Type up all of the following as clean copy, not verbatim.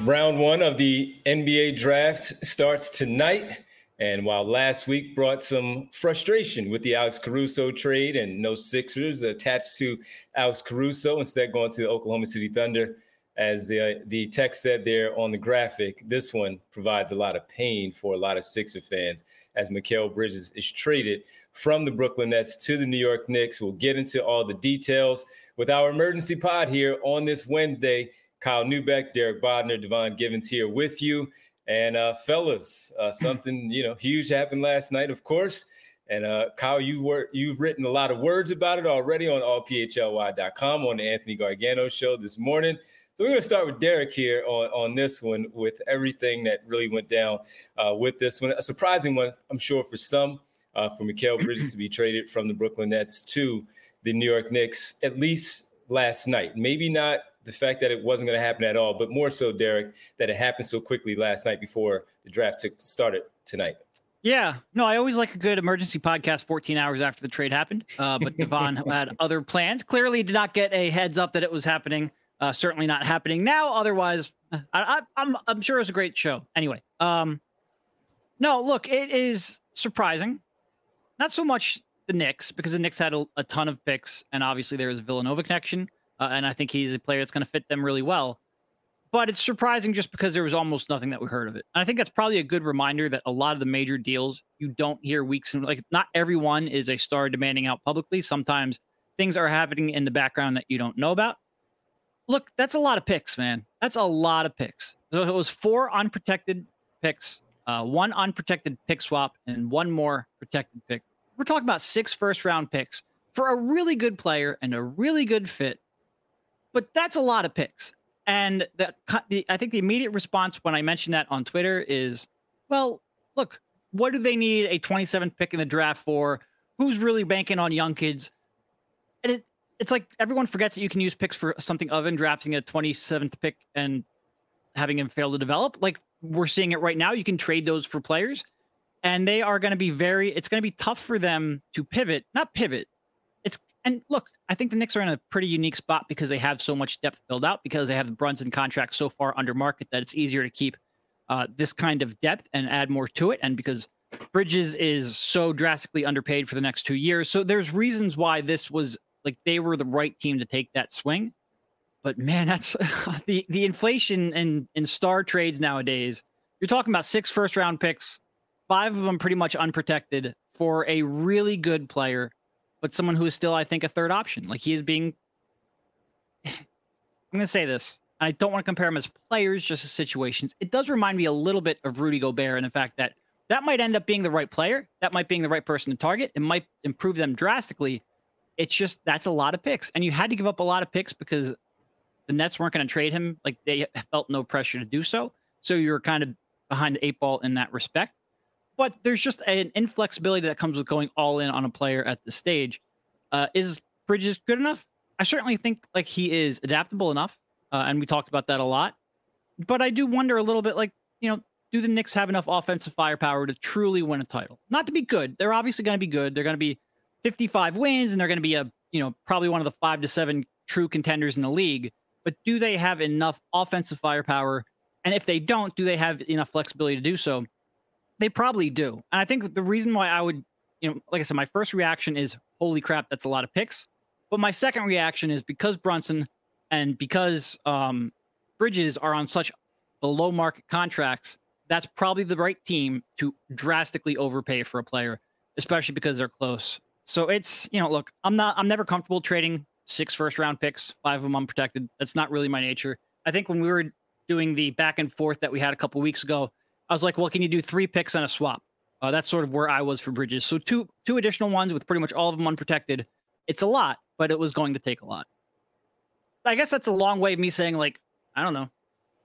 Round one of the NBA draft starts tonight. And while last week brought some frustration with the Alex Caruso trade and no Sixers attached to Alex Caruso, instead going to the Oklahoma City Thunder, as the text said there on the graphic, this one provides a lot of pain for a lot of Sixer fans as Mikal Bridges is traded from the Brooklyn Nets to the New York Knicks. We'll get into all the details with our emergency pod here on this Wednesday. Kyle Neubeck, Derek Bodner, Devon Givens here with you. And fellas, something huge happened last night, of course. And Kyle, you've written a lot of words about it already on allphly.com on the Anthony Gargano show this morning. So we're going to start with Derek here on this one with everything that really went down with this one. A surprising one, I'm sure, for some, for Mikal Bridges to be traded from the Brooklyn Nets to the New York Knicks, at least last night. Maybe not the fact that it wasn't going to happen at all, but more so, Derek, that it happened so quickly last night before the draft started tonight. Yeah, no, I always like a good emergency podcast 14 hours after the trade happened, but Devon had other plans. Clearly did not get a heads up that it was happening. Certainly not happening now. Otherwise, I'm sure it was a great show. Anyway, no, look, it is surprising. Not so much the Knicks, because the Knicks had a ton of picks, and obviously there is a Villanova connection. And I think he's a player that's going to fit them really well. But it's surprising just because there was almost nothing that we heard of it. And I think that's probably a good reminder that a lot of the major deals, you don't hear weeks. And not everyone is a star demanding out publicly. Sometimes things are happening in the background that you don't know about. Look, that's a lot of picks, man. That's a lot of picks. So it was 4 unprotected picks, 1 unprotected pick swap, and 1 more protected pick. We're talking about 6 first-round picks for a really good player and a really good fit. But that's a lot of picks. And I think the immediate response when I mentioned that on Twitter is, well, look, what do they need a 27th pick in the draft for? Who's really banking on young kids? And it's like everyone forgets that you can use picks for something other than drafting a 27th pick and having him fail to develop. Like we're seeing it right now. You can trade those for players. And they are going to be it's going to be tough for them to not pivot. And look, I think the Knicks are in a pretty unique spot because they have so much depth filled out, because they have the Brunson contract so far under market that it's easier to keep this kind of depth and add more to it. And because Bridges is so drastically underpaid for the next 2 years. So there's reasons why this was like they were the right team to take that swing. But man, that's the inflation in star trades nowadays. You're talking about 6 first-round picks, 5 of them pretty much unprotected for a really good player, but someone who is still, I think, a third option. Like he is being, I'm going to say this. I don't want to compare him as players, just as situations. It does remind me a little bit of Rudy Gobert and the fact that might end up being the right player. That might be the right person to target. It might improve them drastically. It's just, that's a lot of picks. And you had to give up a lot of picks because the Nets weren't going to trade him. Like they felt no pressure to do so. So you're kind of behind the 8 ball in that respect. But there's just an inflexibility that comes with going all in on a player at this stage. Is Bridges good enough? I certainly think like he is adaptable enough. And we talked about that a lot. But I do wonder a little bit do the Knicks have enough offensive firepower to truly win a title? Not to be good. They're obviously going to be good. They're going to be 55 wins and they're going to be probably one of the 5 to 7 true contenders in the league. But do they have enough offensive firepower? And if they don't, do they have enough flexibility to do so? They probably do. And I think the reason why I would, like I said, my first reaction is, holy crap, that's a lot of picks. But my second reaction is because Brunson and because Bridges are on such below market contracts, that's probably the right team to drastically overpay for a player, especially because they're close. So it's, look, I'm never comfortable trading 6 first round picks, 5 of them unprotected. That's not really my nature. I think when we were doing the back and forth that we had a couple weeks ago, I was like, well, can you do 3 picks and a swap? That's sort of where I was for Bridges. So two additional ones with pretty much all of them unprotected. It's a lot, but it was going to take a lot. I guess that's a long way of me saying, like, I don't know.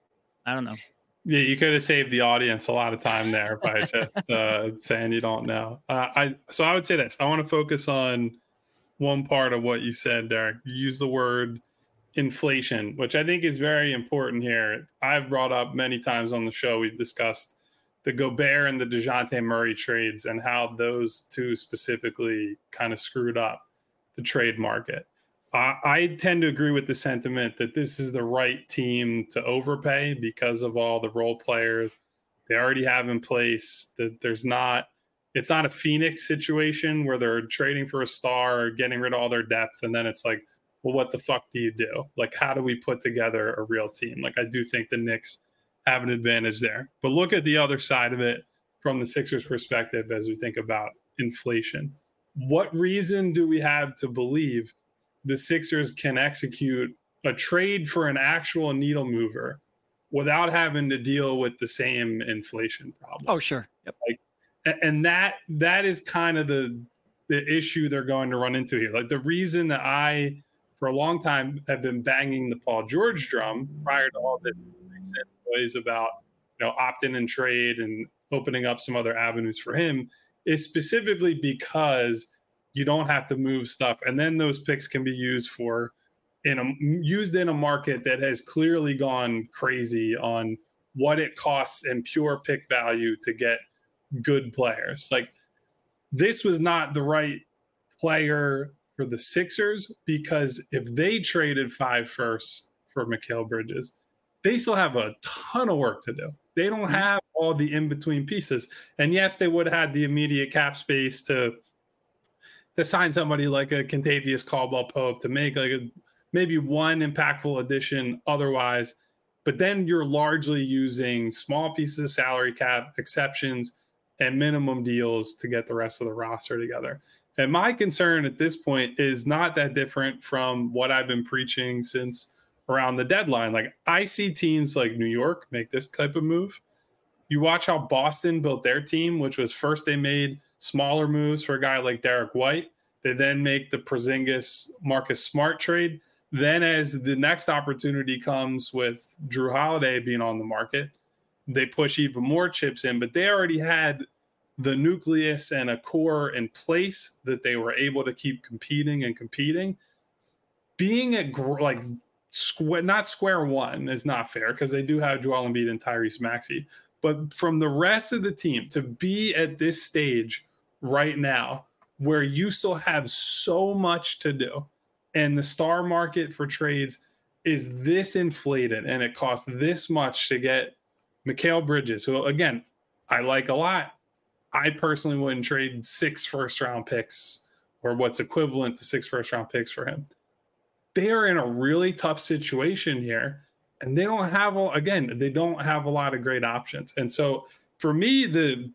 Yeah, you could have saved the audience a lot of time there by just saying you don't know. So I would say this. I want to focus on one part of what you said, Derek. You used the word inflation, which I think is very important here. I've brought up many times on the show, we've discussed the Gobert and the DeJounte Murray trades and how those two specifically kind of screwed up the trade market. I tend to agree with the sentiment that this is the right team to overpay because of all the role players they already have in place. That it's not a Phoenix situation where they're trading for a star or getting rid of all their depth. And then it's like, well, what the fuck do you do? Like, how do we put together a real team? Like, I do think the Knicks have an advantage there. But look at the other side of it from the Sixers perspective as we think about inflation. What reason do we have to believe the Sixers can execute a trade for an actual needle mover without having to deal with the same inflation problem? Oh, sure. Yep. Like, and that is kind of the issue they're going to run into here. Like, the reason that I, for a long time, have been banging the Paul George drum prior to all this recent noise about, opt-in and trade and opening up some other avenues for him, is specifically because you don't have to move stuff, and then those picks can be used in a market that has clearly gone crazy on what it costs in pure pick value to get good players. Like, this was not the right player for the Sixers, because if they traded 5 firsts for Mikal Bridges, they still have a ton of work to do. They don't have all the in-between pieces. And yes, they would have had the immediate cap space to sign somebody like a Kentavious Caldwell-Pope to make maybe one impactful addition otherwise. But then you're largely using small pieces of salary cap, exceptions, and minimum deals to get the rest of the roster together. And my concern at this point is not that different from what I've been preaching since around the deadline. Like, I see teams like New York make this type of move. You watch how Boston built their team, which was first they made smaller moves for a guy like Derek White. They then make the Porzingis Marcus Smart trade. Then as the next opportunity comes with Drew Holiday being on the market, they push even more chips in, but they already had the nucleus and a core in place that they were able to keep competing. Being at not square one is not fair, because they do have Joel Embiid and Tyrese Maxey. But from the rest of the team to be at this stage right now, where you still have so much to do, and the star market for trades is this inflated, and it costs this much to get Mikal Bridges, who, again, I like a lot. I personally wouldn't trade 6 first-round picks or what's equivalent to 6 first-round picks for him. They are in a really tough situation here, and they don't have a lot of great options. And so for me, the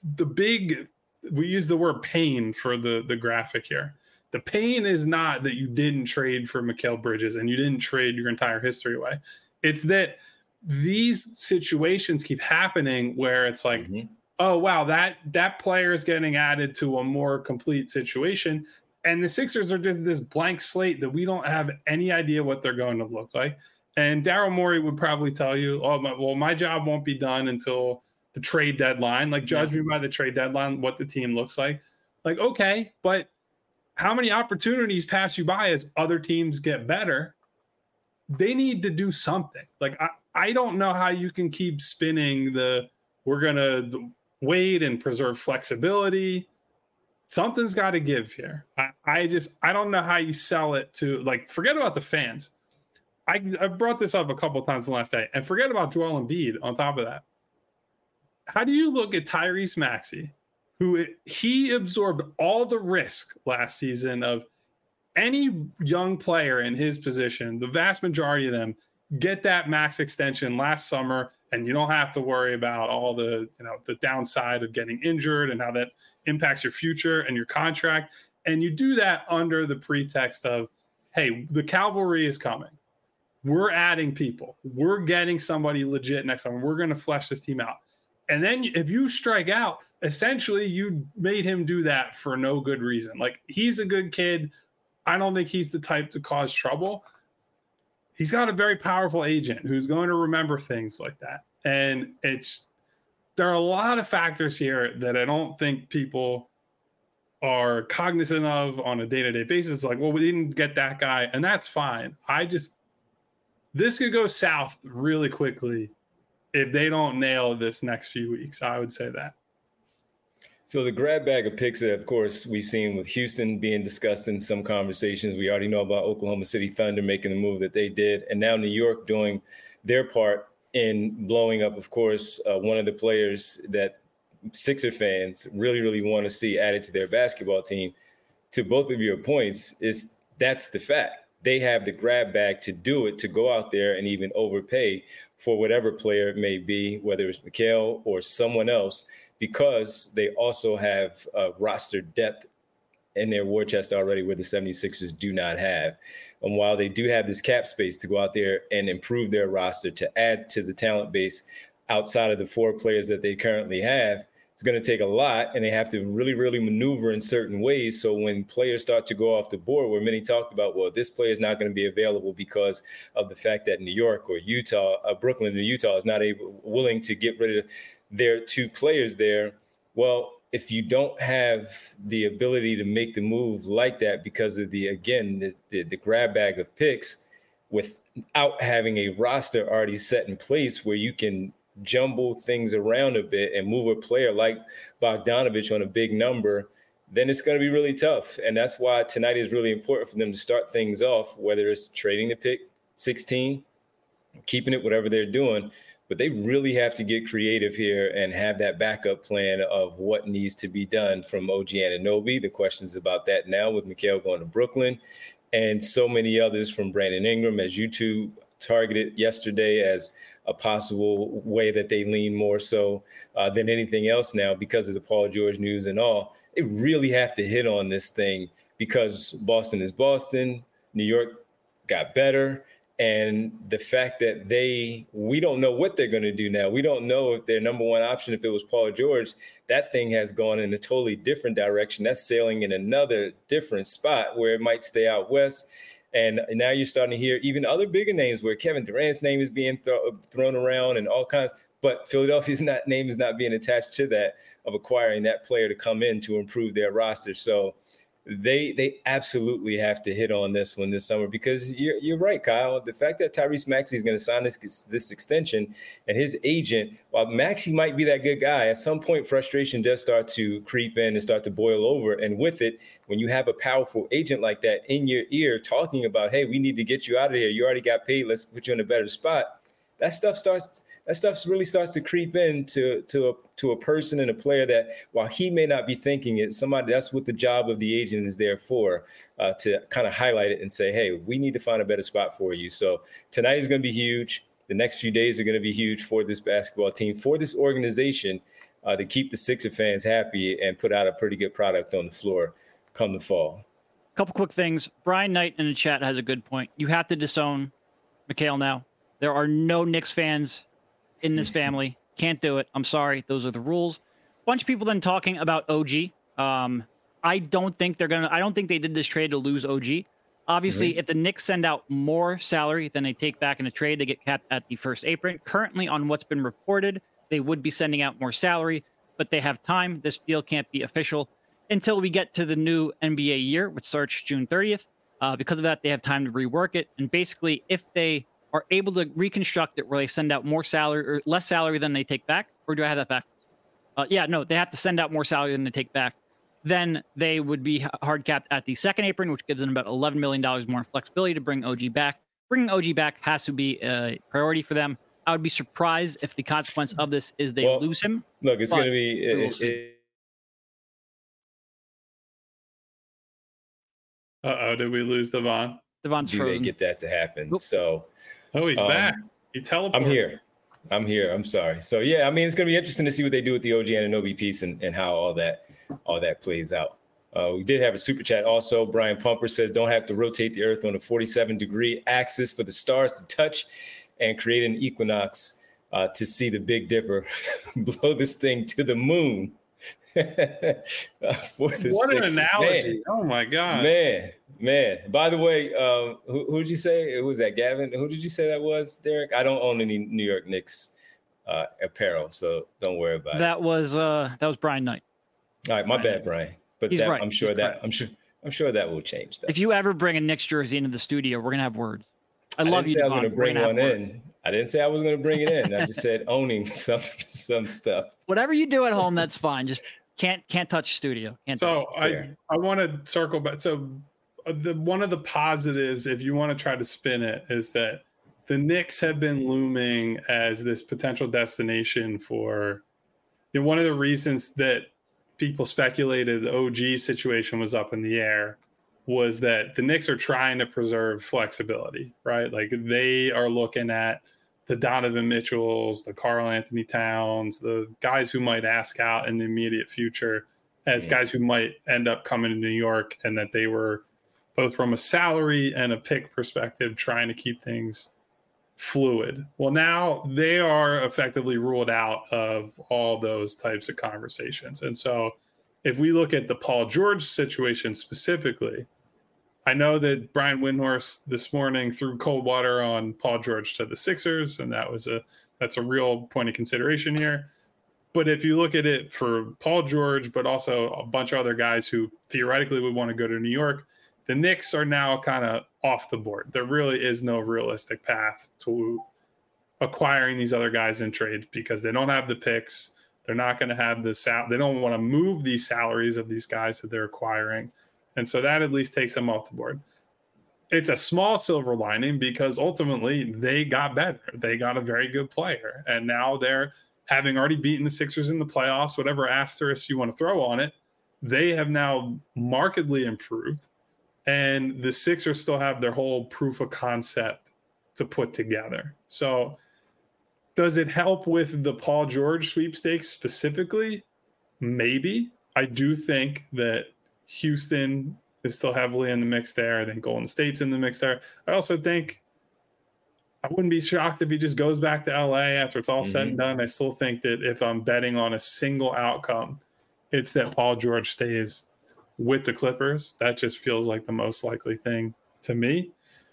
big, we use the word pain for the graphic here. The pain is not that you didn't trade for Mikal Bridges and you didn't trade your entire history away. It's that these situations keep happening where it's like, oh, wow, that player is getting added to a more complete situation. And the Sixers are just this blank slate that we don't have any idea what they're going to look like. And Daryl Morey would probably tell you, my job won't be done until the trade deadline. Like, judge me by the trade deadline, what the team looks like. Like, okay, but how many opportunities pass you by as other teams get better? They need to do something. Like, I don't know how you can keep spinning we're going to wait and preserve flexibility. Something's got to give here. I don't know how you sell it to, like, forget about the fans. I brought this up a couple of times in the last day, and forget about Joel Embiid on top of that. How do you look at Tyrese Maxey, who he absorbed all the risk last season of any young player in his position, the vast majority of them get that max extension last summer, and you don't have to worry about all the downside of getting injured and how that impacts your future and your contract. And you do that under the pretext of, hey, the cavalry is coming. We're adding people. We're getting somebody legit next summer. We're going to flesh this team out. And then if you strike out, essentially you made him do that for no good reason. Like, he's a good kid. I don't think he's the type to cause trouble. He's got a very powerful agent who's going to remember things like that. And there are a lot of factors here that I don't think people are cognizant of on a day-to-day basis. It's like, well, we didn't get that guy, and that's fine. This could go south really quickly if they don't nail this next few weeks. I would say that. So the grab bag of picks that, of course, we've seen with Houston being discussed in some conversations. We already know about Oklahoma City Thunder making the move that they did, and now New York doing their part in blowing up, of course, one of the players that Sixer fans really, really want to see added to their basketball team. To both of your points, that's the fact. They have the grab bag to do it, to go out there and even overpay for whatever player it may be, whether it's Mikal or someone else, because they also have roster depth in their war chest already where the 76ers do not have. And while they do have this cap space to go out there and improve their roster, to add to the talent base outside of the 4 players that they currently have, it's going to take a lot, and they have to really, really maneuver in certain ways. So when players start to go off the board, where many talked about, well, this player is not going to be available because of the fact that New York or Utah, Brooklyn or Utah is not willing to get rid of their 2 players there. Well, if you don't have the ability to make the move like that because of the grab bag of picks without having a roster already set in place where you can jumble things around a bit and move a player like Bogdanovich on a big number, then it's going to be really tough. And that's why tonight is really important for them to start things off, whether it's trading the pick 16, keeping it, whatever they're doing. But they really have to get creative here and have that backup plan of what needs to be done from OG Anunoby. The questions about that now with Mikal going to Brooklyn and so many others from Brandon Ingram, as you two targeted yesterday as a possible way that they lean more so than anything else now because of the Paul George news and all. They really have to hit on this thing because Boston is Boston. New York got better. And the fact that we don't know what they're going to do now. We don't know if their number one option, if it was Paul George, that thing has gone in a totally different direction. That's sailing in another different spot where it might stay out west. And now you're starting to hear even other bigger names where Kevin Durant's name is being thrown around and all kinds. But Philadelphia's name is not being attached to that of acquiring that player to come in to improve their roster. So they absolutely have to hit on this one this summer because you're right, Kyle. The fact that Tyrese Maxey is going to sign this extension and his agent, while Maxey might be that good guy, at some point frustration does start to creep in and start to boil over. And with it, when you have a powerful agent like that in your ear talking about, hey, we need to get you out of here. You already got paid. Let's put you in a better spot. That stuff really starts to creep into a person and a player that, while he may not be thinking it, that's what the job of the agent is there for, to kind of highlight it and say, hey, we need to find a better spot for you. So tonight is going to be huge. The next few days are going to be huge for this basketball team, for this organization, to keep the Sixer fans happy and put out a pretty good product on the floor come the fall. A couple quick things. Brian Knight in the chat has a good point. You have to disown Mikal now. There are no Knicks fans in this family. Can't do it. I'm sorry. Those are the rules. Bunch of people then talking about OG. I don't think they did this trade to lose OG. Obviously, if the Knicks send out more salary than they take back in a trade, they get capped at the first apron. Currently, on what's been reported, they would be sending out more salary, but they have time. This deal can't be official until we get to the new NBA year, which starts June 30th. Because of that, they have time to rework it. And basically, if they are able to reconstruct it where they send out more salary or less salary than they take back, or do I have that back? They have to send out more salary than they take back. Then they would be hard capped at the second apron, which gives them about $11 million more flexibility to bring OG back. Bringing OG back has to be a priority for them. I would be surprised if the consequence of this is they lose him. Look, it's going to be... Did we lose Devon? Devon's frozen. They get that to happen? Oop. So... Oh, he's back. He teleported. I'm here. I'm sorry. So, yeah, I mean, it's going to be interesting to see what they do with the OG Anunoby piece and how all that plays out. We did have a super chat also. Brian Pumper says, don't have to rotate the Earth on a 47-degree axis for the stars to touch and create an equinox to see the Big Dipper blow this thing to the moon. What an analogy. Oh, my God. Man. By the way, who did you say? It was that Gavin. Who did you say that was, Derek? I don't own any New York Knicks apparel, so don't worry about it. That was Brian Knight. All right, my bad, Brian. But he's right. I'm sure that will change that. If you ever bring a Knicks jersey into the studio, we're gonna have words. I love you. I was going to bring one in. I didn't say I was going to bring it in. I just said owning some stuff. Whatever you do at home, that's fine. Just Can't touch studio. I want to circle back. So one of the positives, if you want to try to spin it, is that the Knicks have been looming as this potential destination for, one of the reasons that people speculated the OG situation was up in the air was that the Knicks are trying to preserve flexibility, right? Like they are looking at the Donovan Mitchells, the Karl Anthony Towns, the guys who might ask out in the immediate future as guys who might end up coming to New York, and that they were both from a salary and a pick perspective trying to keep things fluid. Well, now they are effectively ruled out of all those types of conversations. And so if we look at the Paul George situation specifically, I know that Brian Windhorst this morning threw cold water on Paul George to the Sixers, and that's a real point of consideration here. But if you look at it for Paul George, but also a bunch of other guys who theoretically would want to go to New York, the Knicks are now kind of off the board. There really is no realistic path to acquiring these other guys in trades because they don't have the picks. They're not going to have they don't want to move these salaries of these guys that they're acquiring. And so that at least takes them off the board. It's a small silver lining because ultimately they got better. They got a very good player. And now they're having already beaten the Sixers in the playoffs, whatever asterisk you want to throw on it, they have now markedly improved. And the Sixers still have their whole proof of concept to put together. So does it help with the Paul George sweepstakes specifically? Maybe. I do think that Houston is still heavily in the mix there. I think Golden State's in the mix there. I also think I wouldn't be shocked if he just goes back to LA after it's all said and done. I still think that if I'm betting on a single outcome, it's that Paul George stays with the Clippers. That just feels like the most likely thing to me.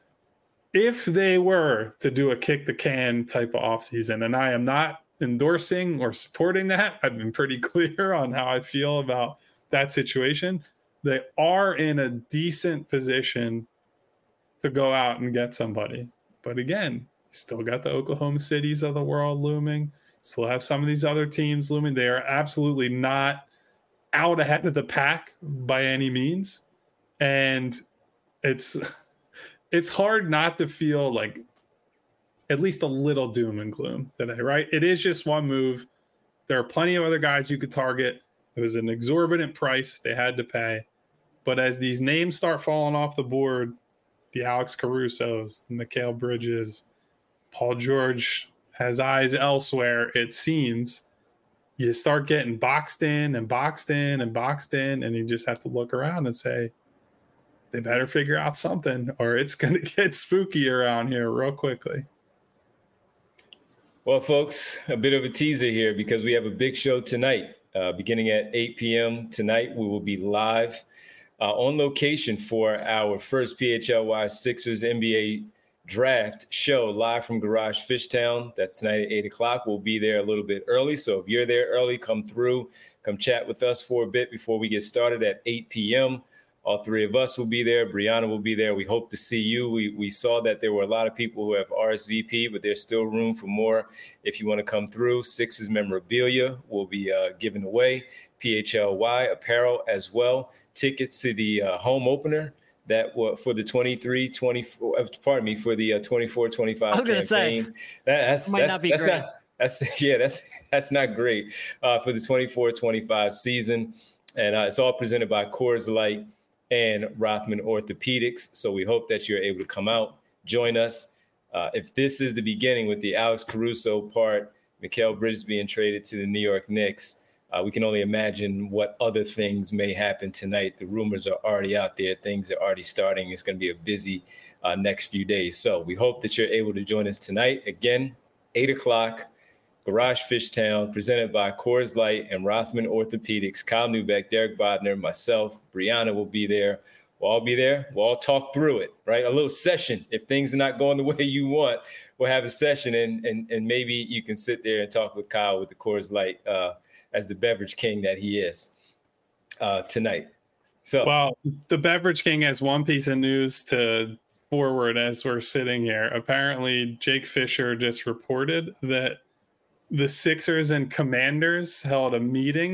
If they were to do a kick the can type of offseason, and I am not endorsing or supporting that, I've been pretty clear on how I feel about that situation. They are in a decent position to go out and get somebody. But again, you still got the Oklahoma Cities of the world looming. Still have some of these other teams looming. They are absolutely not out ahead of the pack by any means. And it's hard not to feel like at least a little doom and gloom today, right? It is just one move. There are plenty of other guys you could target. It was an exorbitant price they had to pay. But as these names start falling off the board, the Alex Carusos, the Mikal Bridges, Paul George has eyes elsewhere, it seems. You start getting boxed in and boxed in and boxed in, and you just have to look around and say, they better figure out something or it's going to get spooky around here real quickly. Well, folks, a bit of a teaser here because we have a big show tonight. Beginning at 8 p.m. tonight, we will be live on location for our first PHLY Sixers NBA draft show live from Garage Fishtown. That's tonight at 8 o'clock. We'll be there a little bit early. So if you're there early, come through, come chat with us for a bit before we get started at 8 p.m. All three of us will be there. Brianna will be there. We hope to see you. We saw that there were a lot of people who have RSVP, but there's still room for more. If you want to come through, Sixers memorabilia will be given away. PHLY apparel as well. Tickets to the home opener that for the 24-25 I was campaign. Gonna say, that's not be great. That's not great for the 24-25 season. And it's all presented by Coors Light and Rothman Orthopedics. So we hope that you're able to come out, join us. If this is the beginning with the Alex Caruso part, Mikal Bridges being traded to the New York Knicks, we can only imagine what other things may happen tonight. The rumors are already out there. Things are already starting. It's going to be a busy next few days. So we hope that you're able to join us tonight. Again, 8 o'clock, Garage Fishtown, presented by Coors Light and Rothman Orthopedics. Kyle Neubeck, Derek Bodner, myself, Brianna will be there. We'll all be there. We'll all talk through it, right? A little session. If things are not going the way you want, we'll have a session and maybe you can sit there and talk with Kyle with the Coors Light as the beverage king that he is tonight. So, well, the beverage king has one piece of news to forward as we're sitting here. Apparently, Jake Fisher just reported that the Sixers and Commanders held a meeting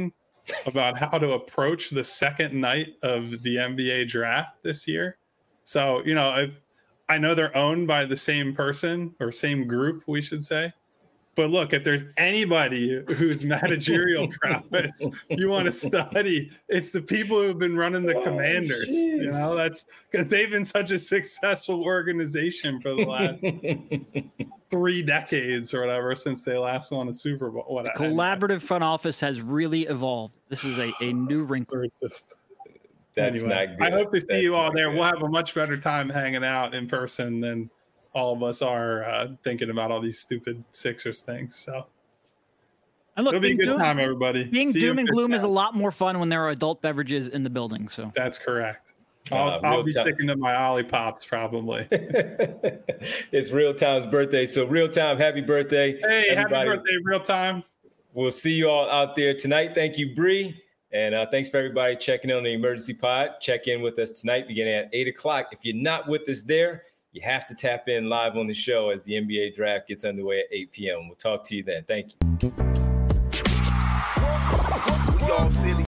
about how to approach the second night of the NBA draft this year. So, I know they're owned by the same person or same group, we should say. But look, if there's anybody whose managerial prowess you want to study, it's the people who have been running the Commanders. Geez. That's because they've been such a successful organization for the last 3 decades or whatever since they last won a Super Bowl. The collaborative front office has really evolved. This is a new wrinkle. That's anyway, not good. I hope to see you all there. Good. We'll have a much better time hanging out in person than all of us are thinking about all these stupid Sixers things. So and look, it'll be a good time, everybody. Being doom and gloom is a lot more fun when there are adult beverages in the building. So that's correct. I'll be sticking to my Ollipops probably. It's Real Time's birthday. So Real Time, happy birthday. Hey, everybody. Happy birthday, Real Time. We'll see you all out there tonight. Thank you, Bree. And thanks for everybody checking in on the Emergency Pod. Check in with us tonight beginning at 8 o'clock. If you're not with us there, you have to tap in live on the show as the NBA draft gets underway at 8 p.m. We'll talk to you then. Thank you.